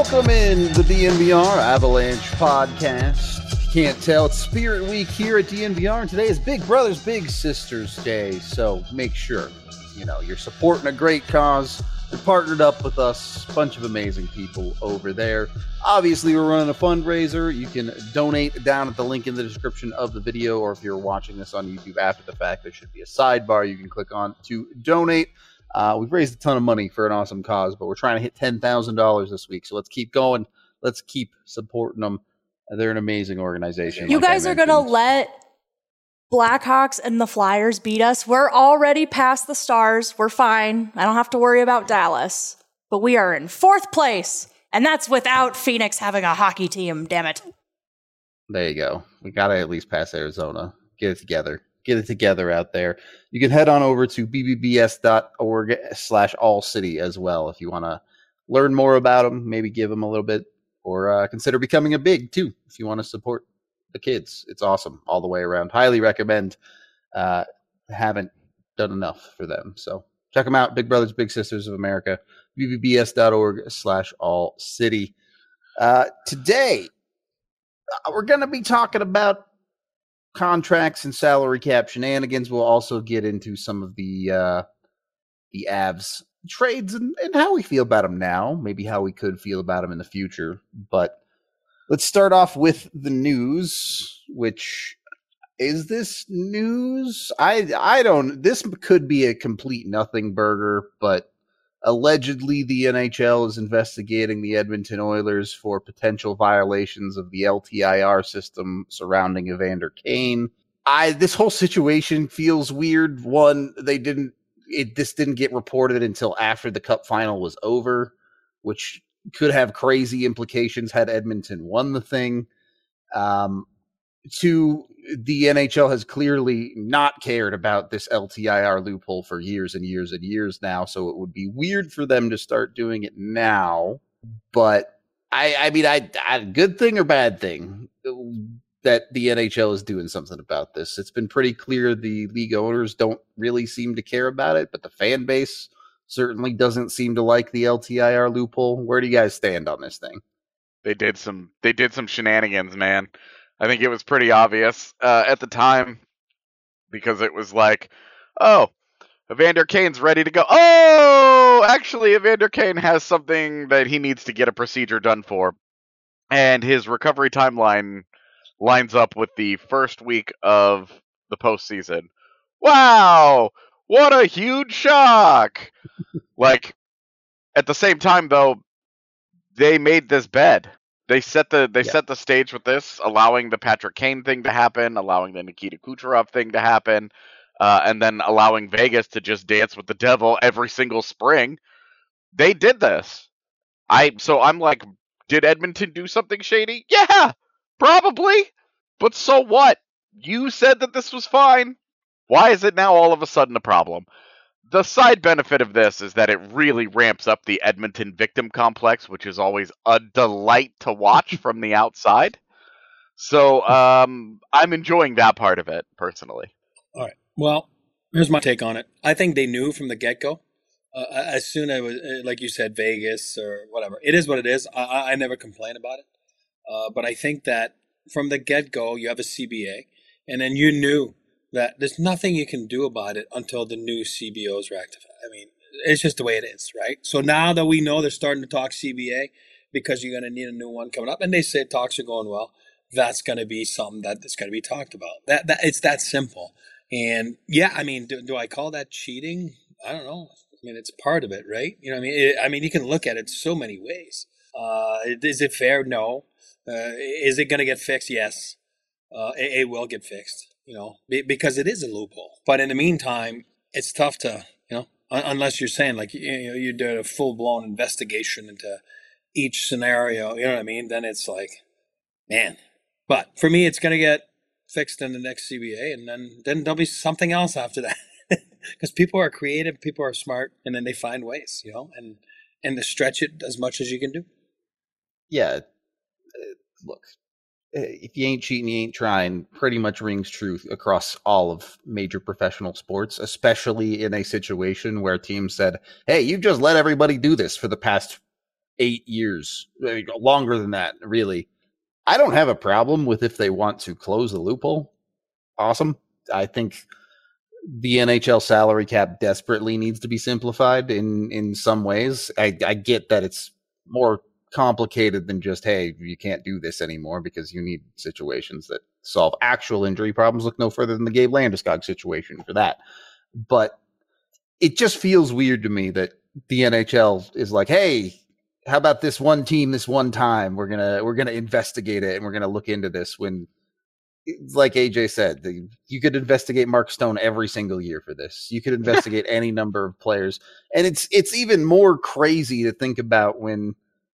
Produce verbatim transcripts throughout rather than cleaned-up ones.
Welcome in the D N V R Avalanche podcast. If you can't tell, it's Spirit Week here at D N V R, and today is Big Brothers Big Sisters Day. So make sure, you know, you're supporting a great cause. You're partnered up with us, a bunch of amazing people over there. Obviously, we're running a fundraiser. You can donate down at the link in the description of the video, or if you're watching this on YouTube after the fact, there should be a sidebar you can click on to donate. Uh, we've raised a ton of money for an awesome cause, but we're trying to hit ten thousand dollars this week. So let's keep going. Let's keep supporting them. They're an amazing organization. You like guys are going to let Blackhawks and the Flyers beat us. We're already past the Stars. We're fine. I don't have to worry about Dallas. But we are in fourth place, and that's without Phoenix having a hockey team, damn it. There you go. We got to at least pass Arizona. Get it together. Get it together out there. You can head on over to b b b s dot org slash all city as well if you want to learn more about them, maybe give them a little bit, or uh, consider becoming a big too if you want to support the kids. It's awesome all the way around. Highly recommend. Uh, haven't done enough for them. So check them out. Big Brothers Big Sisters of America. b b b s dot org slash all city. Uh, today, uh, we're going to be talking about contracts and salary cap shenanigans. We'll also get into some of the uh, the Avs trades and, and how we feel about them now, maybe how we could feel about them in the future. But let's start off with the news, which is this news? I I don't. This could be a complete nothing burger, but allegedly the N H L is investigating the Edmonton Oilers for potential violations of the L T I R system surrounding Evander Kane. I this whole situation feels weird. One, they didn't it this didn't get reported until after the Cup final was over, which could have crazy implications had Edmonton won the thing. Um, two, the N H L has clearly not cared about this L T I R loophole for years and years and years now, so it would be weird for them to start doing it now. But I, I mean, I, I good thing or bad thing that the N H L is doing something about this. It's been pretty clear the league owners don't really seem to care about it, but the fan base certainly doesn't seem to like the L T I R loophole. Where do you guys stand on this thing? They did some, they did some shenanigans, man. I think it was pretty obvious uh, at the time because it was like, oh, Evander Kane's ready to go. Oh, actually, Evander Kane has something that he needs to get a procedure done for. And his recovery timeline lines up with the first week of the postseason. Wow, what a huge shock. Like, at the same time, though, they made this bed. They set the they yeah. set the stage with this, allowing the Patrick Kane thing to happen, allowing the Nikita Kucherov thing to happen, uh, and then allowing Vegas to just dance with the devil every single spring. They did this. I so I'm like, did Edmonton do something shady? Yeah, probably. But so what? You said that this was fine. Why is it now all of a sudden a problem? The side benefit of this is that it really ramps up the Edmonton victim complex, which is always a delight to watch from the outside. So um, I'm enjoying that part of it, personally. All right. Well, here's my take on it. I think they knew from the get-go. Uh, as soon as, it was, like you said, Vegas or whatever. It is what it is. I, I never complain about it. Uh, but I think that from the get-go, you have a C B A, and then you knew that there's nothing you can do about it until the new C B O is rectified. I mean, it's just the way it is, right? So now that we know they're starting to talk C B A because you're going to need a new one coming up, and they say talks are going well, that's going to be something that is going to be talked about. That that it's that simple. And yeah, I mean, do, do I call that cheating? I don't know. I mean, it's part of it, right? You know what I mean? It, I mean, you can look at it so many ways. Uh, is it fair? No. Uh, is it going to get fixed? Yes. Uh, it, it will get fixed. You know, because it is a loophole. But in the meantime, it's tough to, you know, unless you're saying like, you know, you did a full blown investigation into each scenario, you know what I mean? Then it's like, man. But for me, it's going to get fixed in the next C B A, and then, then there'll be something else after that. Because people are creative, people are smart, and then they find ways, you know, and, and to stretch it as much as you can do. Yeah. Look. If you ain't cheating, you ain't trying, pretty much rings true across all of major professional sports, especially in a situation where teams said, hey, you just let everybody do this for the past eight years, I mean, longer than that, really. I don't have a problem with if they want to close the loophole. Awesome. I think the N H L salary cap desperately needs to be simplified in, in some ways. I, I get that it's more complicated than just, hey, you can't do this anymore, because you need situations that solve actual injury problems. Look no further than the Gabe Landeskog situation for that. But it just feels weird to me that the N H L is like, hey, how about this one team this one time? We're gonna we're gonna investigate it and we're gonna look into this. When, like A J said, the, you could investigate Mark Stone every single year for this. You could investigate any number of players, and it's it's even more crazy to think about when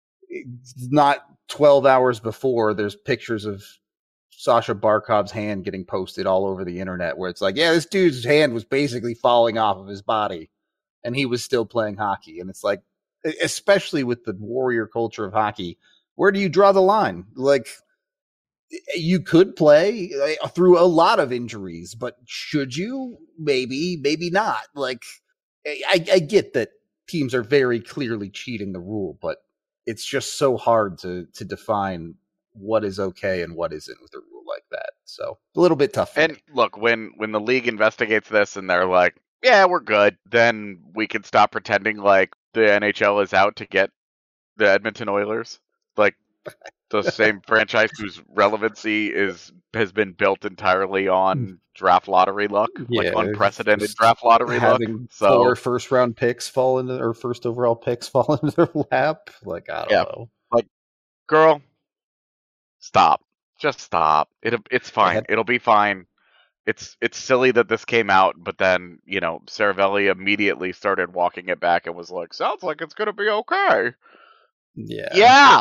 not twelve hours before there's pictures of Sasha Barkov's hand getting posted all over the internet, where it's like, yeah, this dude's hand was basically falling off of his body, and he was still playing hockey. And it's like, especially with the warrior culture of hockey, where do you draw the line? Like, you could play through a lot of injuries, but should you? Maybe, maybe not. Like, I, I get that teams are very clearly cheating the rule, but it's just so hard to to define what is okay and what isn't with a rule like that. So a little bit tough. And me. look, when when the league investigates this and they're like, yeah, we're good, then we can stop pretending like the N H L is out to get the Edmonton Oilers. Like, the same franchise whose relevancy is has been built entirely on draft lottery luck, Yeah, like unprecedented draft lottery luck. having So four first round picks fall into, or first overall picks fall into their lap. Like, I don't Yeah. know. Like, girl, stop. Just stop. It it's fine. had- It'll be fine. It's it's silly that this came out, but then, you know, Saravelli immediately started walking it back and was like, sounds like it's gonna be okay. Yeah. Yeah.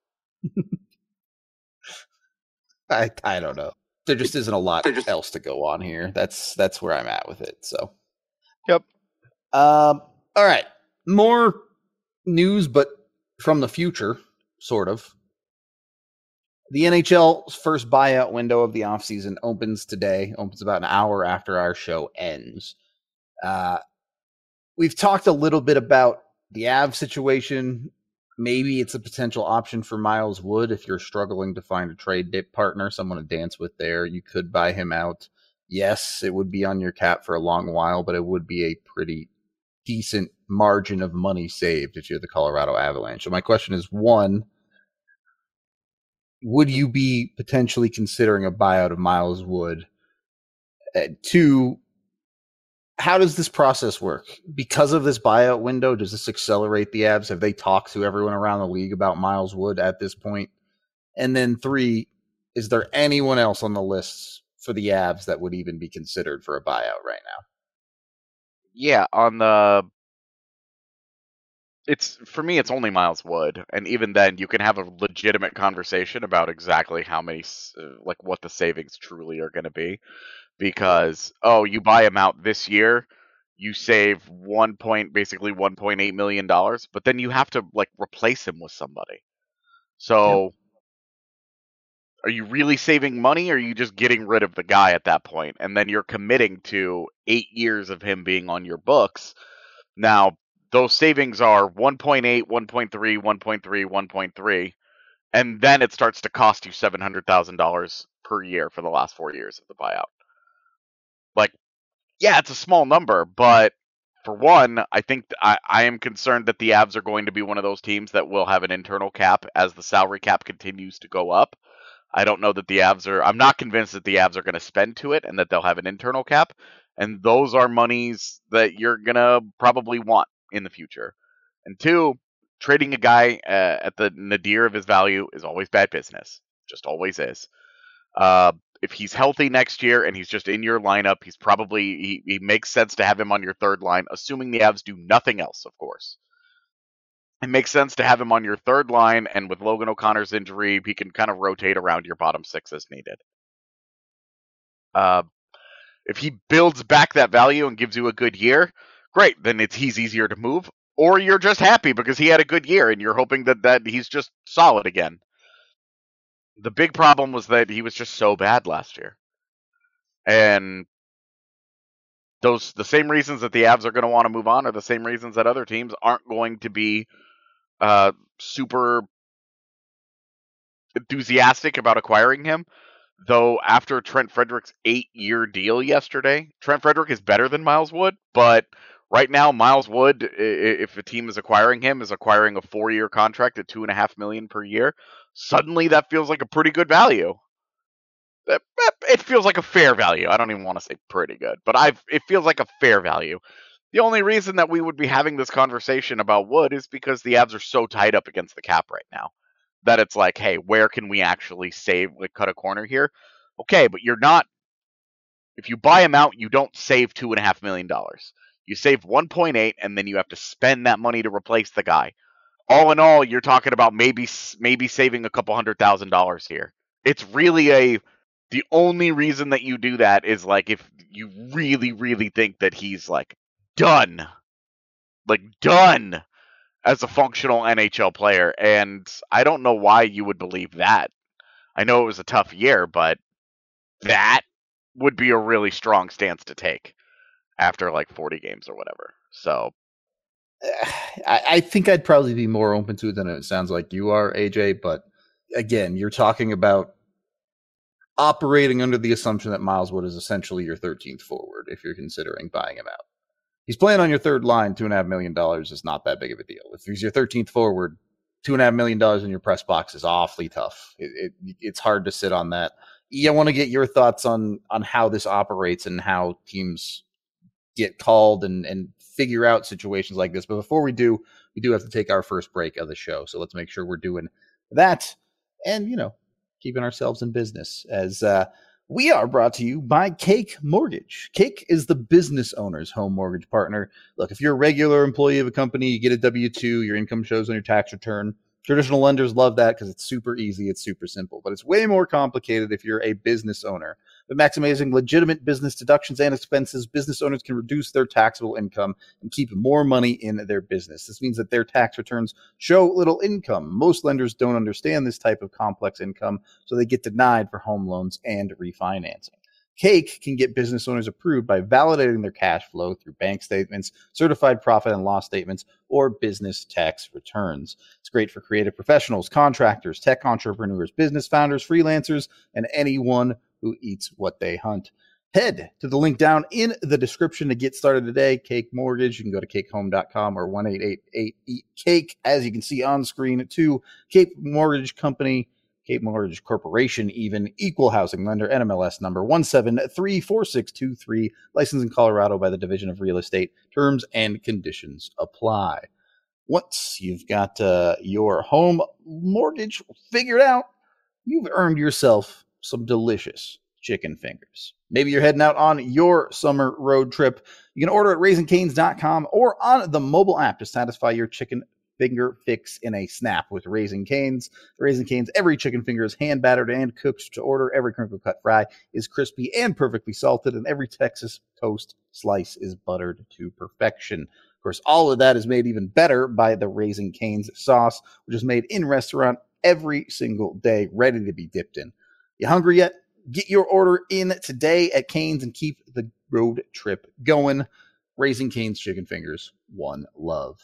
I I don't know. There just isn't a lot else to go on here. That's that's where I'm at with it. So, Yep. Um. All right. More news, but from the future, sort of. The N H L's first buyout window of the offseason opens today. Opens about an hour after our show ends. Uh, we've talked a little bit about the Avs situation. Maybe it's a potential option for Miles Wood if you're struggling to find a trade dip partner, someone to dance with there. You could buy him out. Yes, it would be on your cap for a long while, but it would be a pretty decent margin of money saved if you're the Colorado Avalanche. So my question is, one, would you be potentially considering a buyout of Miles Wood? Uh, two, how does this process work? Because of this buyout window, does this accelerate the Avs? Have they talked to everyone around the league about Miles Wood at this point? And then three, is there anyone else on the list for the Avs that would even be considered for a buyout right now? Yeah, on the it's for me it's only Miles Wood, and even then you can have a legitimate conversation about exactly how many uh, like what the savings truly are going to be, because oh, you buy him out this year, you save one point basically one point eight million dollars, but then you have to like replace him with somebody. So yep. Are you really saving money, or are you just getting rid of the guy at that point? And then you're committing to eight years of him being on your books. Now, those savings are one point eight, one point three, one point three, one point three, and then it starts to cost you seven hundred thousand dollars per year for the last four years of the buyout. Like, yeah, it's a small number, but for one, I think th- I, I am concerned that the Avs are going to be one of those teams that will have an internal cap as the salary cap continues to go up. I don't know that the Avs are, I'm not convinced that the Avs are going to spend to it and that they'll have an internal cap. And those are monies that you're going to probably want in the future. And two, trading a guy uh, at the nadir of his value is always bad business. Just always is. Uh, if he's healthy next year and he's just in your lineup, he's probably, he, he makes sense to have him on your third line, assuming the Avs do nothing else, of course. It makes sense to have him on your third line, and with Logan O'Connor's injury, he can kind of rotate around your bottom six as needed. Uh, if he builds back that value and gives you a good year, great, then it's he's easier to move. Or you're just happy because he had a good year and you're hoping that, that he's just solid again. The big problem was that he was just so bad last year. And those the same reasons that the Avs are going to want to move on are the same reasons that other teams aren't going to be uh, super enthusiastic about acquiring him. Though after Trent Frederick's eight-year deal yesterday, Trent Frederick is better than Miles Wood, but right now Miles Wood, if a team is acquiring him, is acquiring a four-year contract at two and a half million per year. Suddenly, that feels like a pretty good value. It feels like a fair value. I don't even want to say pretty good, but I've it feels like a fair value. The only reason that we would be having this conversation about Wood is because the Avs are so tied up against the cap right now that it's like, hey, where can we actually save, like, cut a corner here? Okay, but you're not. If you buy him out, you don't save two and a half million dollars. You save one point eight, and then you have to spend that money to replace the guy. All in all, you're talking about maybe maybe saving a couple hundred thousand dollars here. It's really a. The only reason that you do that is like if you really, really think that he's like done, like done. As a functional N H L player, and I don't know why you would believe that. I know it was a tough year, but that would be a really strong stance to take after like forty games or whatever. So I, I think I'd probably be more open to it than it sounds like you are, A J, but again, you're talking about operating under the assumption that Miles Wood is essentially your thirteenth forward if you're considering buying him out. He's playing on your third line. Two and a half million dollars is not that big of a deal. If he's your thirteenth forward, two and a half million dollars in your press box is awfully tough. It, it, it's hard to sit on that. Yeah, I want to get your thoughts on on how this operates and how teams get called and and figure out situations like this. But before we do, we do have to take our first break of the show. So let's make sure we're doing that, and you know, keeping ourselves in business as. Uh, We are brought to you by Cake Mortgage. Cake is the business owner's home mortgage partner. Look, if you're a regular employee of a company, you get a W two, your income shows on your tax return. Traditional lenders love that because it's super easy, it's super simple. But it's way more complicated if you're a business owner. By maximizing legitimate business deductions and expenses, business owners can reduce their taxable income and keep more money in their business. This means that their tax returns show little income. Most lenders don't understand this type of complex income, so they get denied for home loans and refinancing. Cake can get business owners approved by validating their cash flow through bank statements, certified profit and loss statements, or business tax returns. It's great for creative professionals, contractors, tech entrepreneurs, business founders, freelancers, and anyone who eats what they hunt. Head to the link down in the description to get started today. Cake Mortgage. You can go to cake home dot com or one eight eight eight eat cake, as you can see on screen, to Cape Mortgage Company. Cape Mortgage Corporation, even equal housing lender, N M L S number one seven three four six two three, licensed in Colorado by the Division of Real Estate. Terms and conditions apply. Once you've got uh, your home mortgage figured out, you've earned yourself some delicious chicken fingers. Maybe you're heading out on your summer road trip. You can order at raising canes dot com or on the mobile app to satisfy your chicken finger fix in a snap with Raising Cane's. Raising Cane's, every chicken finger is hand battered and cooked to order. Every crinkle cut fry is crispy and perfectly salted, and every Texas toast slice is buttered to perfection. Of course, all of that is made even better by the Raising Cane's sauce, which is made in restaurant every single day, ready to be dipped in. You hungry yet? Get your order in today at Cane's and keep the road trip going. Raising Cane's chicken fingers, one love.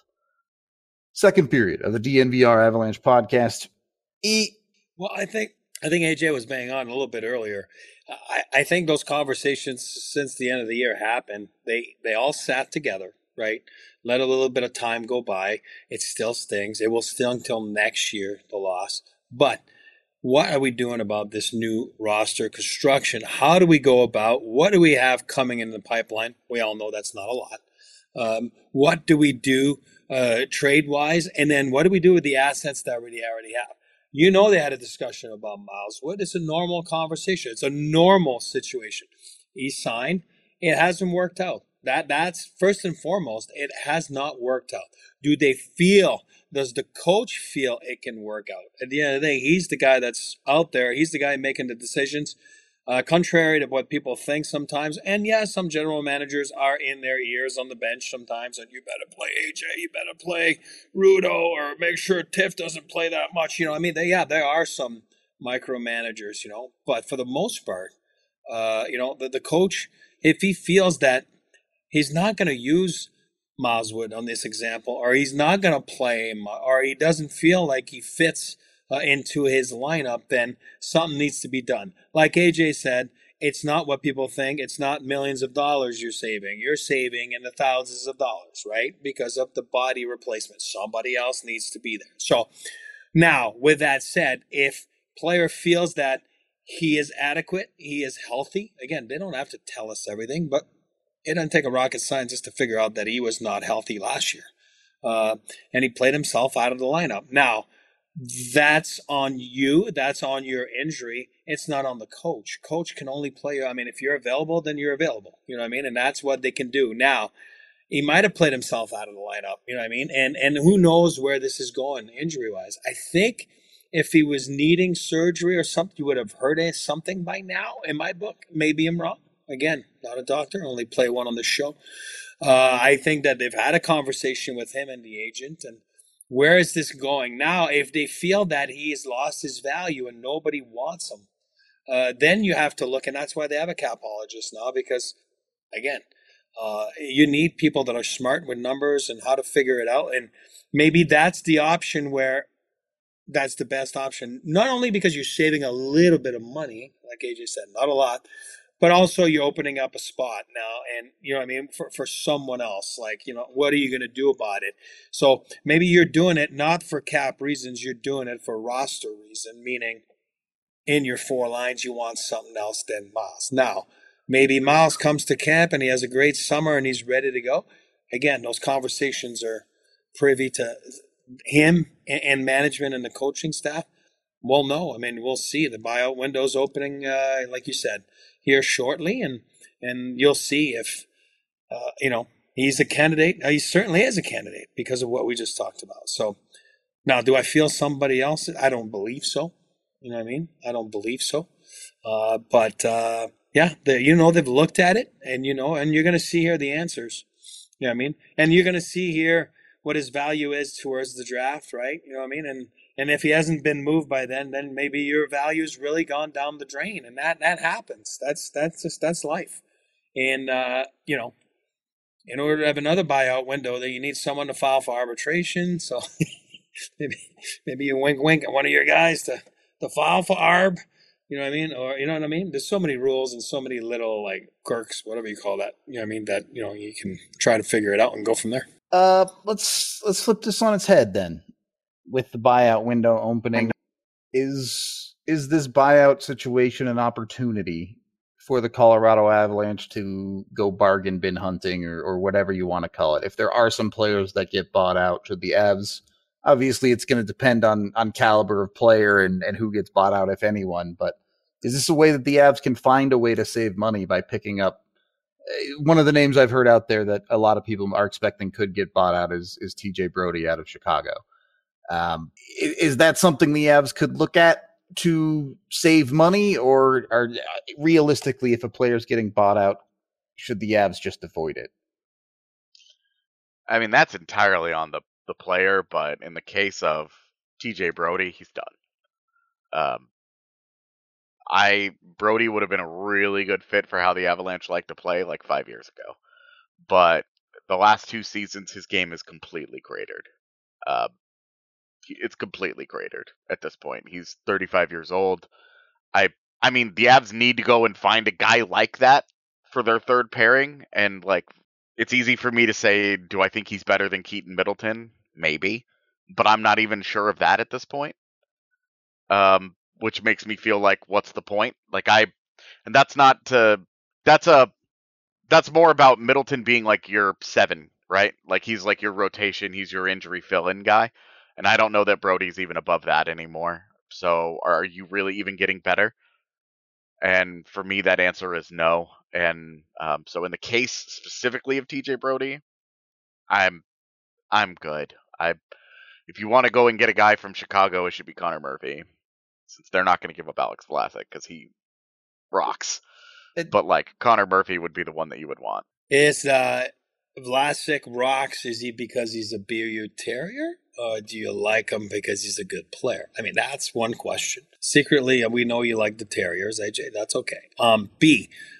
Second period of the D N V R Avalanche podcast. E. Well, I think I think A J was bang on a little bit earlier. I, I think those conversations since the end of the year happened. They they all sat together, right? Let a little bit of time go by. It still stings. It will sting until next year, the loss. But what are we doing about this new roster construction? How do we go about? What do we have coming in the pipeline? We all know that's not a lot. Um, what do we do? Uh, trade-wise, and then what do we do with the assets that we already have? You know they had a discussion about Miles Wood. It's a normal conversation. It's a normal situation. He signed. It hasn't worked out. That That's first and foremost. It has not worked out. Do they feel, does the coach feel it can work out? At the end of the day, he's the guy that's out there. He's the guy making the decisions. Uh, contrary to what people think sometimes. And yeah, some general managers are in their ears on the bench sometimes, and you better play A J, you better play Rudo, or make sure Tiff doesn't play that much. You know, I mean, they, yeah, there are some micromanagers, you know, but for the most part, uh, you know, the, the coach, if he feels that he's not going to use Miles Wood on this example, or he's not going to play him, or he doesn't feel like he fits uh, into his lineup, then something needs to be done. Like A J said, it's not what people think. It's not millions of dollars you're saving. You're saving in the thousands of dollars, right? Because of the body replacement. Somebody else needs to be there. So now, with that said, if player feels that he is adequate, he is healthy, again, they don't have to tell us everything, but it doesn't take a rocket scientist to figure out that he was not healthy last year. Uh, and he played himself out of the lineup. Now, that's on you. That's on your injury. It's not on the coach. Coach can only play. I mean, if you're available, then you're available. You know what I mean? And that's what they can do. Now, he might have played himself out of the lineup. You know what I mean? And and who knows where this is going injury-wise. I think if he was needing surgery or something, you would have heard something by now in my book. Maybe I'm wrong. Again, not a doctor. Only play one on the show. Uh, I think that they've had a conversation with him and the agent, and where is this going? Now, if they feel that he has lost his value and nobody wants him, uh, then you have to look, and that's why they have a capologist now, because, again, uh, you need people that are smart with numbers and how to figure it out. And maybe that's the option where that's the best option, not only because you're saving a little bit of money, like A J said, not a lot, but also you're opening up a spot now, and you know what I mean, for, for someone else. Like, you know, what are you going to do about it? So maybe you're doing it not for cap reasons, you're doing it for roster reason, meaning in your four lines you want something else than Miles. Now, maybe Miles comes to camp and he has a great summer and he's ready to go. Again, those conversations are privy to him and management and the coaching staff. Well, no, I mean, we'll see. The buyout window's opening, uh, like you said, here shortly, and and you'll see if, uh, you know, he's a candidate. He certainly is a candidate because of what we just talked about. So now, do I feel somebody else? I don't believe so. You know what I mean? I don't believe so. Uh, but, uh, yeah, you know, they've looked at it, and, you know, and you're going to see here the answers. You know what I mean? And you're going to see here what his value is towards the draft, right? You know what I mean? And And if he hasn't been moved by then, then maybe your value's really gone down the drain, and that that happens. That's that's just that's life. And uh, you know, in order to have another buyout window, that you need someone to file for arbitration. So maybe maybe you wink wink at one of your guys to to file for arb. You know what I mean? Or you know what I mean? There's so many rules and so many little like quirks, whatever you call that. You know what I mean? That you know you can try to figure it out and go from there. Uh, let's let's flip this on its head then. With the buyout window opening, is is this buyout situation an opportunity for the Colorado Avalanche to go bargain bin hunting or, or whatever you want to call it? If there are some players that get bought out, should the Avs, obviously it's going to depend on on caliber of player and, and who gets bought out, if anyone, but is this a way that the Avs can find a way to save money by picking up? One of the names I've heard out there that a lot of people are expecting could get bought out is, is T J Brody out of Chicago. Um, is that something the Avs could look at to save money, or, or realistically, if a player's getting bought out, should the Avs just avoid it? I mean, that's entirely on the, the player, but in the case of T J Brody, he's done. Um, I Brody would have been a really good fit for how the Avalanche like to play like five years ago, but the last two seasons, his game is completely cratered. Uh, It's completely cratered at this point. He's thirty-five years old. I I mean, the Avs need to go and find a guy like that for their third pairing. And, like, it's easy for me to say, do I think he's better than Keaton Middleton? Maybe. But I'm not even sure of that at this point. Um, which makes me feel like, what's the point? Like, I... And that's not to... That's a... That's more about Middleton being, like, your seven, right? Like, he's, like, your rotation. He's your injury fill-in guy. And I don't know that Brody's even above that anymore. So are you really even getting better? And for me, that answer is no. And um, so in the case specifically of T J Brody, I'm I'm good. I if you want to go and get a guy from Chicago, it should be Connor Murphy, since they're not going to give up Alex Vlasic because he rocks. It, but like Connor Murphy would be the one that you would want. Is uh, Vlasic rocks? Is he because he's a Beer Terrier? Or do you like him because he's a good player? I mean, that's one question. Secretly, we know you like the Terriers, A J. That's okay. Um, B,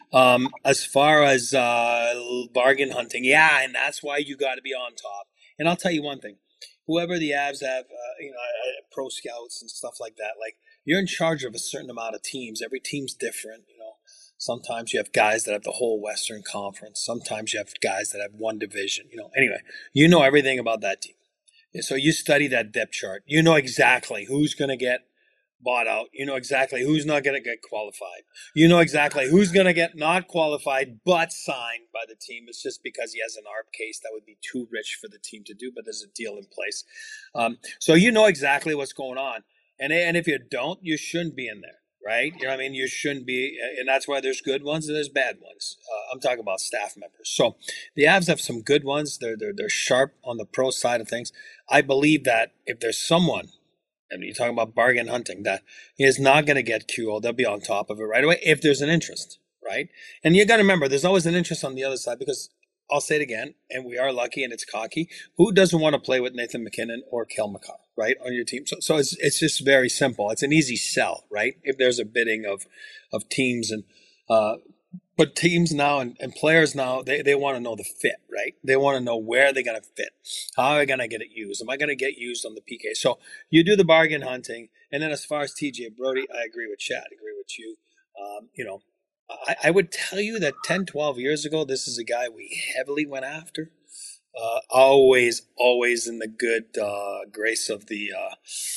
Um, as far as uh, bargain hunting, yeah, and that's why you got to be on top. And I'll tell you one thing: whoever the Avs have, uh, you know, uh, pro scouts and stuff like that, like you're in charge of a certain amount of teams. Every team's different, you know. Sometimes you have guys that have the whole Western Conference. Sometimes you have guys that have one division. You know. Anyway, you know everything about that team. So you study that depth chart. You know exactly who's going to get bought out. You know exactly who's not going to get qualified. You know exactly who's going to get not qualified but signed by the team. It's just because he has an A R B case that would be too rich for the team to do, but there's a deal in place. Um, so you know exactly what's going on. And, and if you don't, you shouldn't be in there, right? You know what I mean? You shouldn't be. And that's why there's good ones and there's bad ones. Uh, I'm talking about staff members. So the Avs have some good ones. They're, they're, they're sharp on the pro side of things. I believe that if there's someone, and you're talking about bargain hunting, that is not going to get Q O. They'll be on top of it right away if there's an interest, right? And you got to remember, there's always an interest on the other side because I'll say it again, and we are lucky and it's cocky. Who doesn't want to play with Nathan MacKinnon or Kel McCarr, right, on your team? So, so it's it's just very simple. It's an easy sell, right? If there's a bidding of of teams and uh, but teams now and, and players now, they, they want to know the fit, right? They want to know where they're going to fit. How am I going to get it used? Am I going to get used on the P K? So you do the bargain hunting. And then as far as T J Brodie, I agree with Chad. I agree with you. Um, you know, I, I would tell you that ten, twelve years ago, this is a guy we heavily went after. Uh, always, always in the good uh, grace of the uh,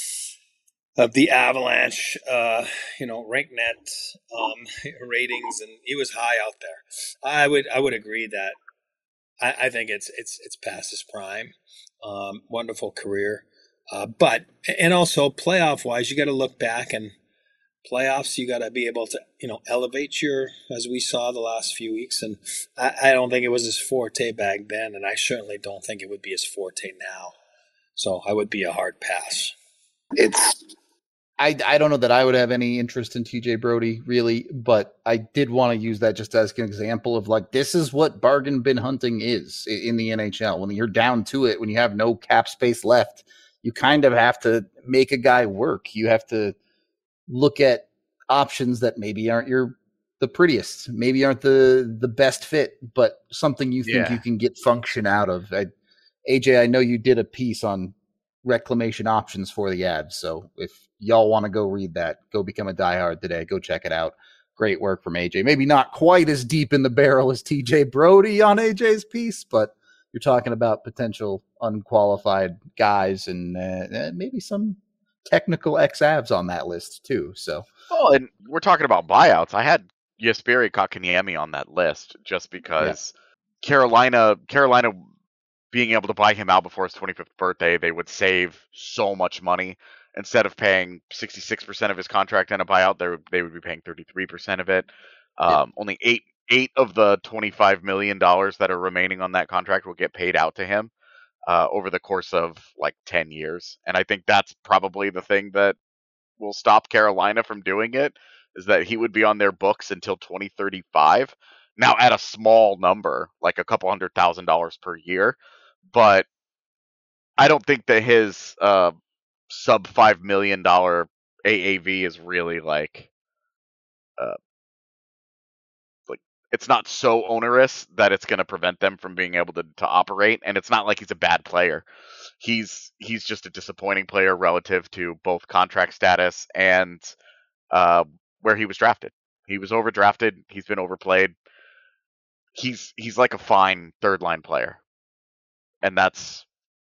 of the Avalanche, uh, you know, RankNet um, ratings, and he was high out there. I would, I would agree that I, I think it's it's it's past his prime. Um, wonderful career, uh, but and also playoff wise, you got to look back and playoffs. You got to be able to, you know, elevate your, as we saw the last few weeks. And I, I don't think it was his forte back then, and I certainly don't think it would be his forte now. So I would be a hard pass. It's. I, I don't know that I would have any interest in T J Brodie, really, but I did want to use that just as an example of, like, this is what bargain bin hunting is in the N H L. When you're down to it, when you have no cap space left, you kind of have to make a guy work. You have to look at options that maybe aren't your the prettiest, maybe aren't the, the best fit, but something you think Yeah. you can get function out of. I, A J, I know you did a piece on reclamation options for the Avs, so if y'all want to go read that, go become a diehard today. Go check it out. Great work from A J. Maybe not quite as deep in the barrel as T J Brodie on A J's piece, but you're talking about potential unqualified guys and uh, maybe some technical ex-Avs on that list too. So, well, and we're talking about buyouts. I had Jesperi Kotkaniemi on that list just because yeah. Carolina, Carolina being able to buy him out before his twenty-fifth birthday, they would save so much money. Instead of paying sixty-six percent of his contract in a buyout, they would, they would be paying thirty-three percent of it. Um, yeah. Only eight eight of the twenty-five million dollars that are remaining on that contract will get paid out to him uh, over the course of like ten years. And I think that's probably the thing that will stop Carolina from doing it, is that he would be on their books until twenty thirty-five. Now at a small number, like a couple hundred thousand dollars per year. But I don't think that his uh, sub five million dollar A A V is really like, uh, like it's not so onerous that it's going to prevent them from being able to, to operate. And it's not like he's a bad player. He's he's just a disappointing player relative to both contract status and uh, where he was drafted. He was overdrafted. He's been overplayed. He's he's like a fine third line player, and that's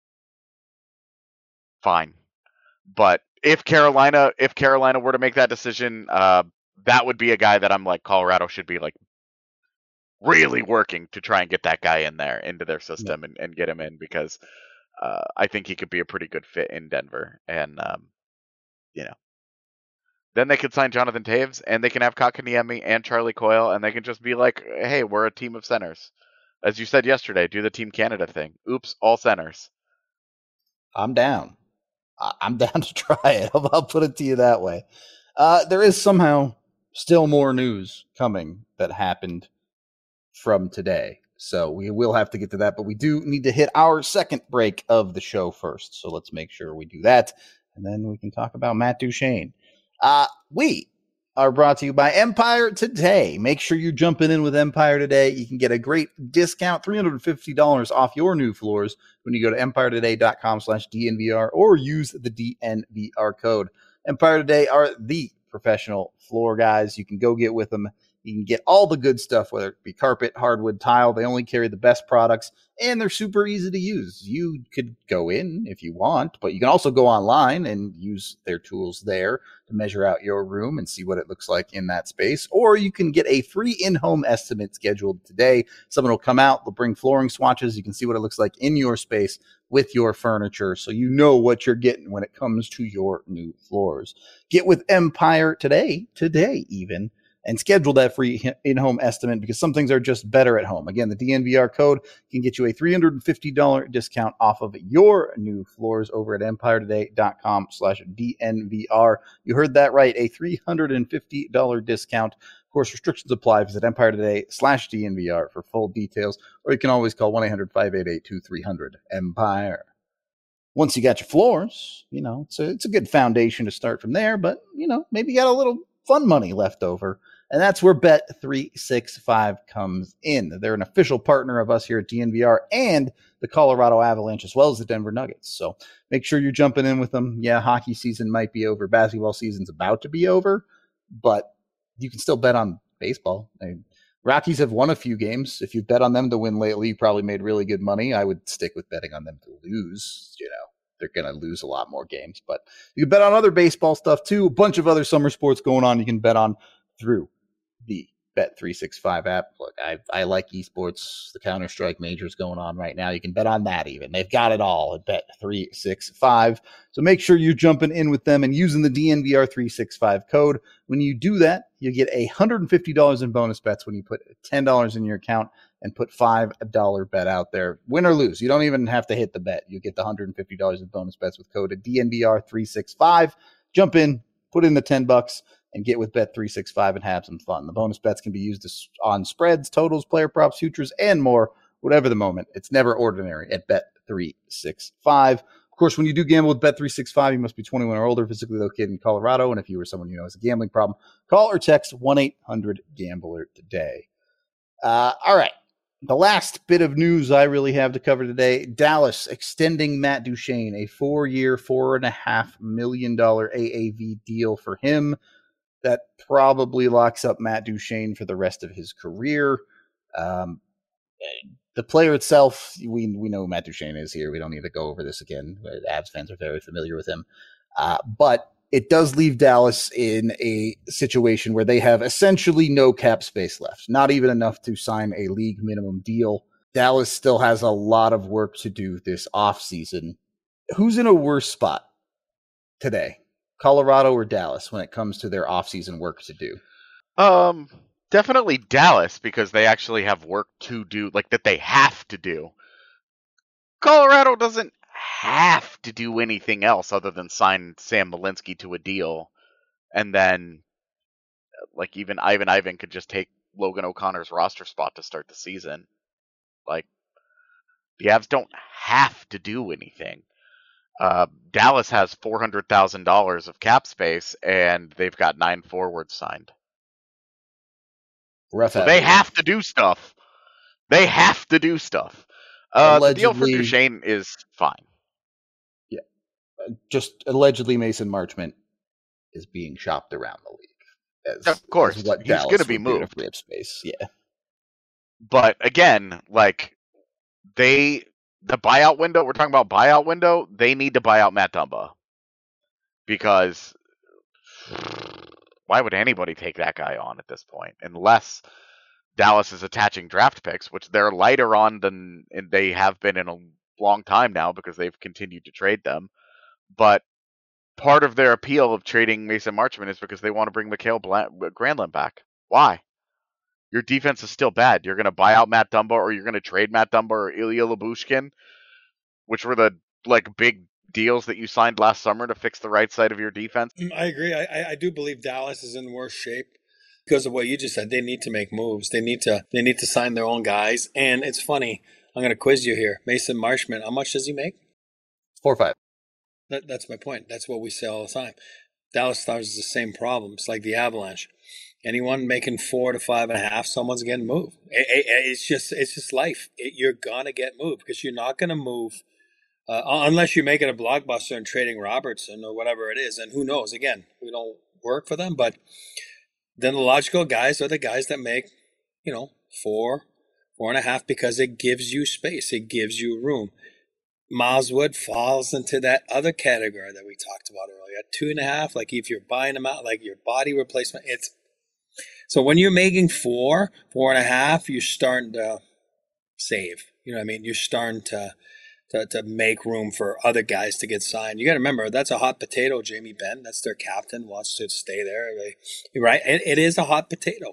fine. But if Carolina, if Carolina were to make that decision, uh, that would be a guy that I'm like, Colorado should be like really working to try and get that guy in there into their system yeah. and, and get him in, because uh, I think he could be a pretty good fit in Denver. And um, you know, then they could sign Jonathan Toews, and they can have Kotkaniemi and Charlie Coyle, and they can just be like, hey, we're a team of centers. As you said yesterday, do the Team Canada thing. Oops, all centers. I'm down. I'm down to try it. I'll put it to you that way. Uh, there is somehow still more news coming that happened from today. So we will have to get to that, but we do need to hit our second break of the show first. So let's make sure we do that, and then we can talk about Matt Duchene. Uh, we are brought to you by Empire Today. Make sure you're jumping in with Empire Today. You can get a great discount, three hundred fifty dollars off your new floors when you go to empire today dot com slash D N V R or use the D N V R code. Empire Today are the professional floor guys. You can go get with them. You can get all the good stuff, whether it be carpet, hardwood, tile. They only carry the best products, and they're super easy to use. You could go in if you want, but you can also go online and use their tools there to measure out your room and see what it looks like in that space. Or you can get a free in-home estimate scheduled today. Someone will come out, they'll bring flooring swatches. You can see what it looks like in your space with your furniture, so you know what you're getting when it comes to your new floors. Get with Empire Today, today even, and schedule that free in-home estimate, because some things are just better at home. Again, the D N V R code can get you a three hundred fifty dollars discount off of your new floors over at empire today dot com slash D N V R. You heard that right, a three hundred fifty dollars discount. Of course, restrictions apply. Visit empire today slash D N V R for full details, or you can always call one eight hundred five eight eight two three zero zero Empire. Once you got your floors, you know, it's a, it's a good foundation to start from there, but, you know, maybe you got a little fun money left over. And that's where Bet three sixty-five comes in. They're an official partner of us here at D N V R and the Colorado Avalanche, as well as the Denver Nuggets. So make sure you're jumping in with them. Yeah, hockey season might be over. Basketball season's about to be over, but you can still bet on baseball. I mean, Rockies have won a few games. If you bet on them to win lately, you probably made really good money. I would stick with betting on them to lose. You know, they're going to lose a lot more games. But you can bet on other baseball stuff, too. A bunch of other summer sports going on you can bet on through the Bet three sixty-five app. Look, I, I like esports. The Counter-Strike majors going on right now. You can bet on that even. They've got it all at Bet three sixty-five. So make sure you're jumping in with them and using the D N V R three sixty-five code. When you do that, you get one hundred fifty dollars in bonus bets when you put ten dollars in your account and put five dollars bet out there. Win or lose. You don't even have to hit the bet. You get the one hundred fifty dollars in bonus bets with code D N V R three sixty-five. Jump in, put in the ten bucks, and get with Bet three sixty-five and have some fun. The bonus bets can be used on spreads, totals, player props, futures, and more, whatever the moment. It's never ordinary at Bet three sixty-five. Of course, when you do gamble with Bet three sixty-five, you must be twenty-one or older, physically located in Colorado, and if you or someone you know has a gambling problem, call or text one eight hundred gambler today. Uh, all right. The last bit of news I really have to cover today, Dallas extending Matt Duchene, a four-year, four point five million dollars A A V deal for him. That probably locks up Matt Duchene for the rest of his career. Um, the player itself, we we know who Matt Duchene is here. We don't need to go over this again. Avs fans are very familiar with him. Uh, but it does leave Dallas in a situation where they have essentially no cap space left, not even enough to sign a league minimum deal. Dallas still has a lot of work to do this offseason. Who's in a worse spot today? Colorado or Dallas when it comes to their offseason work to do? Um, definitely Dallas, because they actually have work to do, like that they have to do. Colorado doesn't have to do anything else other than sign Sam Malinsky to a deal, and then, like, even Ivan Ivan could just take Logan O'Connor's roster spot to start the season. Like, the Avs don't have to do anything. Uh, Dallas has four hundred thousand dollars of cap space, and they've got nine forwards signed. Rough so they have to do stuff. They have to do stuff. Uh, the deal for Duchene is fine. Yeah. Uh, just allegedly Mason Marchment is being shopped around the league. As, of course. as what he's Dallas going to be would do moved. to free up space. Yeah. But again, like, they... The buyout window, we're talking about buyout window, they need to buy out Matt Dumba. Because why would anybody take that guy on at this point? Unless Dallas is attaching draft picks, which they're lighter on than they have been in a long time now because they've continued to trade them. But part of their appeal of trading Mason Marchment is because they want to bring Mikhail Granlund back. Why? Your defense is still bad. You're going to buy out Matt Dumba, or you're going to trade Matt Dumba or Ilya Lyubushkin, which were the like big deals that you signed last summer to fix the right side of your defense. I agree. I, I do believe Dallas is in worse shape because of what you just said. They need to make moves. They need to they need to sign their own guys. And it's funny. I'm going to quiz you here. Mason Marchment, how much does he make? Four or five. That, that's my point. That's what we say all the time. Dallas Stars is the same problem. It's like the Avalanche. Anyone making four to five and a half, someone's getting moved. It, it, it's just it's just life. It, you're gonna get moved because you're not gonna move uh, unless you're making a blockbuster and trading Robertson or whatever it is. And who knows? Again, we don't work for them, but then the logical guys are the guys that make, you know, four, four and a half because it gives you space. It gives you room. Miles Wood falls into that other category that we talked about earlier. Two and a half, like if you're buying them out, like your body replacement, it's so when you're making four, four and a half, you're starting to save. You know what I mean? You're starting to to, to make room for other guys to get signed. You got to remember, that's a hot potato, Jamie Benn. That's their captain, wants to stay there. Right? It, it is a hot potato.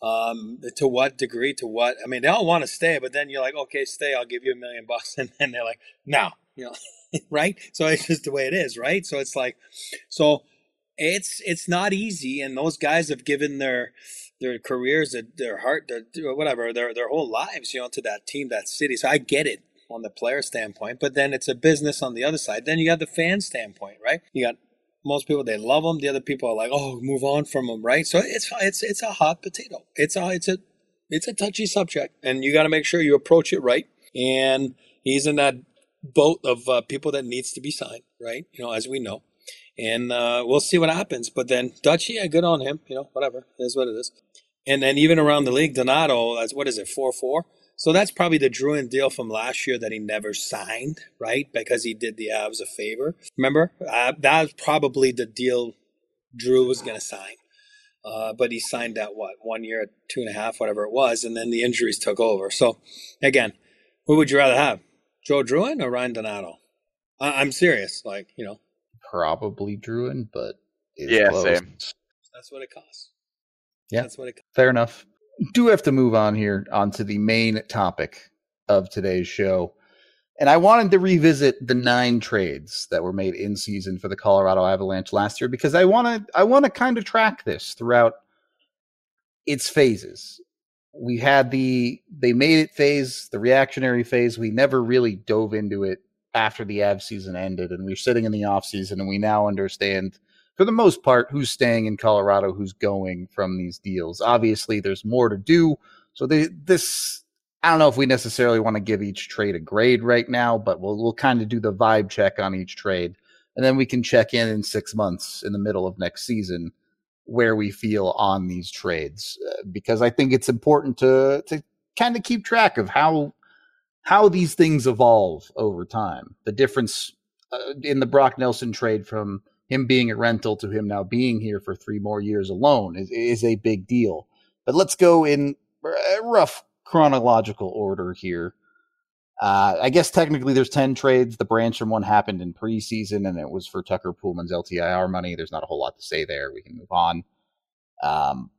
Um, to what degree, to what, I mean, they all want to stay, but then you're like, okay, stay, I'll give you a million bucks. And then they're like, no, you know, right? So it's just the way it is, right? So it's like, so it's, it's not easy. And those guys have given their, their careers, their heart, their, whatever, their, their whole lives, you know, to that team, that city. So I get it on the player standpoint, but then it's a business on the other side. Then you got the fan standpoint, right? You got most people, they love them. The other people are like, oh, move on from them, right? So it's it's it's a hot potato. It's a it's a it's a touchy subject, and you got to make sure you approach it right. And he's in that boat of uh, people that needs to be signed, right? You know, as we know, and uh, we'll see what happens. But then Dutch, yeah, good on him. You know, whatever, it is what it is. And then even around the league, Donato, that's what is it, four four. So that's probably the Drouin deal from last year that he never signed, right? Because he did the Avs a favor. Remember? Uh, that was probably the deal Drew was going to sign. Uh, but he signed that, what, one year, two and a half, whatever it was, and then the injuries took over. So, again, who would you rather have? Joe Drouin or Ryan Donato? I- I'm serious. Like, you know. Probably Drouin, but it's yeah, close. same. That's what it costs. Yeah, That's what it costs. Fair enough. Do have to move on here onto the main topic of today's show. And I wanted to revisit the nine trades that were made in season for the Colorado Avalanche last year because I want to I want to kind of track this throughout its phases. We had the they made it phase, the reactionary phase. We never really dove into it after the Av season ended, and we're sitting in the off season, and we now understand, for the most part, who's staying in Colorado, who's going from these deals. Obviously, there's more to do. So they, this, I don't know if we necessarily want to give each trade a grade right now, but we'll we'll kind of do the vibe check on each trade, and then we can check in in six months in the middle of next season where we feel on these trades, uh, because I think it's important to to kind of keep track of how how these things evolve over time. The difference uh, in the Brock Nelson trade from him being a rental to him now being here for three more years alone is, is a big deal. But let's go in a rough chronological order here. Uh, I guess technically there's ten trades. The Branstrom one happened in preseason, and it was for Tucker Poolman's L T I R money. There's not a whole lot to say there. We can move on. Um,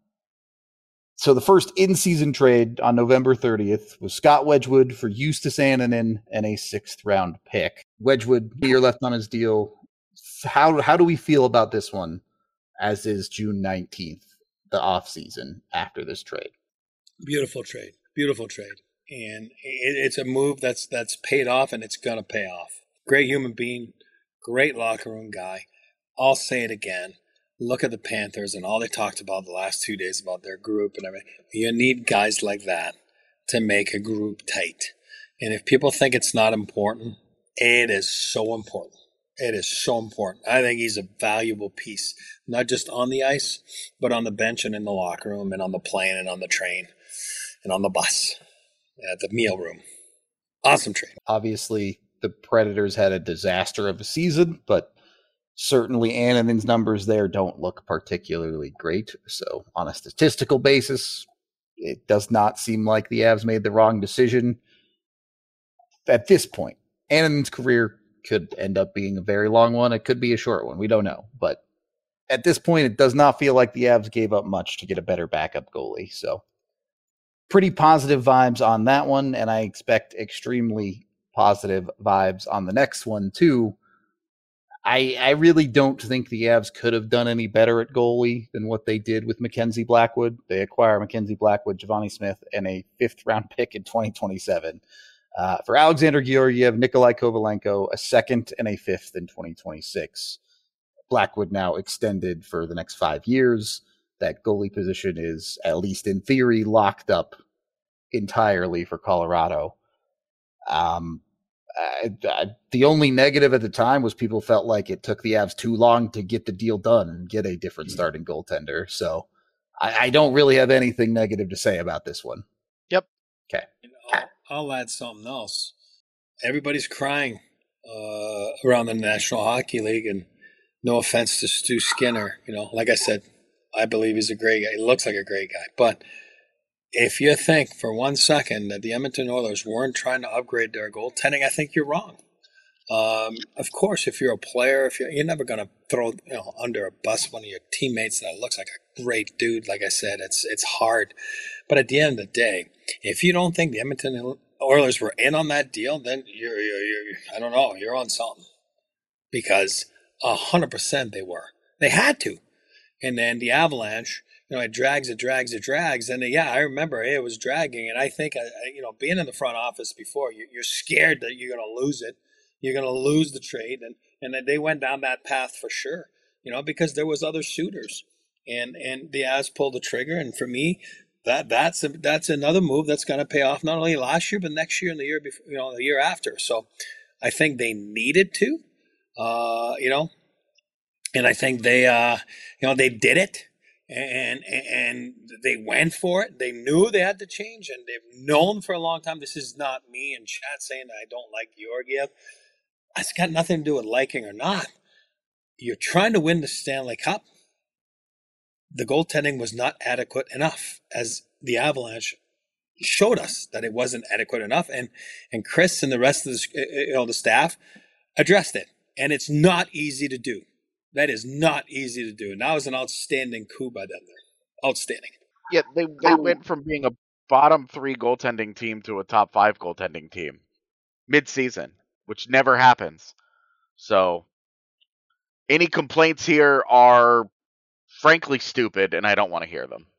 so the first in-season trade on November thirtieth was Scott Wedgwood for Justus Annunen and a sixth-round pick. Wedgwood, a year left on his deal. How how do we feel about this one as is June nineteenth, the off season after this trade? Beautiful trade. Beautiful trade. And it, it's a move that's that's paid off, and it's going to pay off. Great human being, great locker room guy. I'll say it again. Look at the Panthers and all they talked about the last two days about their group and everything. You need guys like that to make a group tight. And if people think it's not important, it is so important. It is so important. I think he's a valuable piece, not just on the ice, but on the bench and in the locker room and on the plane and on the train and on the bus, at the meal room. Awesome trade. Obviously, the Predators had a disaster of a season, but certainly Annunen's numbers there don't look particularly great. So on a statistical basis, it does not seem like the Avs made the wrong decision at this point. Annunen's career could end up being a very long one. It could be a short one. We don't know. But at this point, it does not feel like the Avs gave up much to get a better backup goalie. So pretty positive vibes on that one. And I expect extremely positive vibes on the next one, too. I, I really don't think the Avs could have done any better at goalie than what they did with Mackenzie Blackwood. They acquire Mackenzie Blackwood, Giovanni Smith, and a fifth-round pick in twenty twenty-seven. Uh, for Alexander Georgiev, Nikolai Kovalenko, a second and a fifth in twenty twenty-six. Blackwood now extended for the next five years. That goalie position is, at least in theory, locked up entirely for Colorado. Um, I, I, the only negative at the time was people felt like it took the Avs too long to get the deal done and get a different starting goaltender. So I, I don't really have anything negative to say about this one. Yep. Okay. I'll, I'll add something else. Everybody's crying uh, around the National Hockey League, and no offense to Stu Skinner, you know, like I said, I believe he's a great guy. He looks like a great guy. But if you think for one second that the Edmonton Oilers weren't trying to upgrade their goaltending, I think you're wrong. Um, of course, if you're a player, if you're, you're never going to throw you know under a bus one of your teammates that looks like a great dude. Like I said, it's it's hard. But at the end of the day, if you don't think the Edmonton Oilers were in on that deal, then you're, you're, you're I don't know, you're on something. Because a hundred percent they were. They had to. And then the Avalanche, you know, it drags, it drags, it drags. And yeah, I remember it was dragging. And I think, you know, being in the front office before, you're scared that you're going to lose it. You're going to lose the trade. And, and then they went down that path for sure, you know, because there was other suitors. And and the Avs pulled the trigger. And for me, that that's a, that's another move that's going to pay off not only last year, but next year and the year before, you know, the year after. So I think they needed to, uh, you know, and I think they, uh, you know, they did it. And and they went for it. They knew they had to change, and they've known for a long time. This is not me in chat saying that I don't like Georgiev. It's got nothing to do with liking or not. You're trying to win the Stanley Cup. The goaltending was not adequate enough, as the Avalanche showed us that it wasn't adequate enough. And and Chris and the rest of the, you know, the staff addressed it. And it's not easy to do. That is not easy to do. And that was an outstanding coup by them there. Outstanding. Yeah, they they went from being a bottom three goaltending team to a top five goaltending team mid-season, which never happens. So any complaints here are frankly stupid, and I don't want to hear them.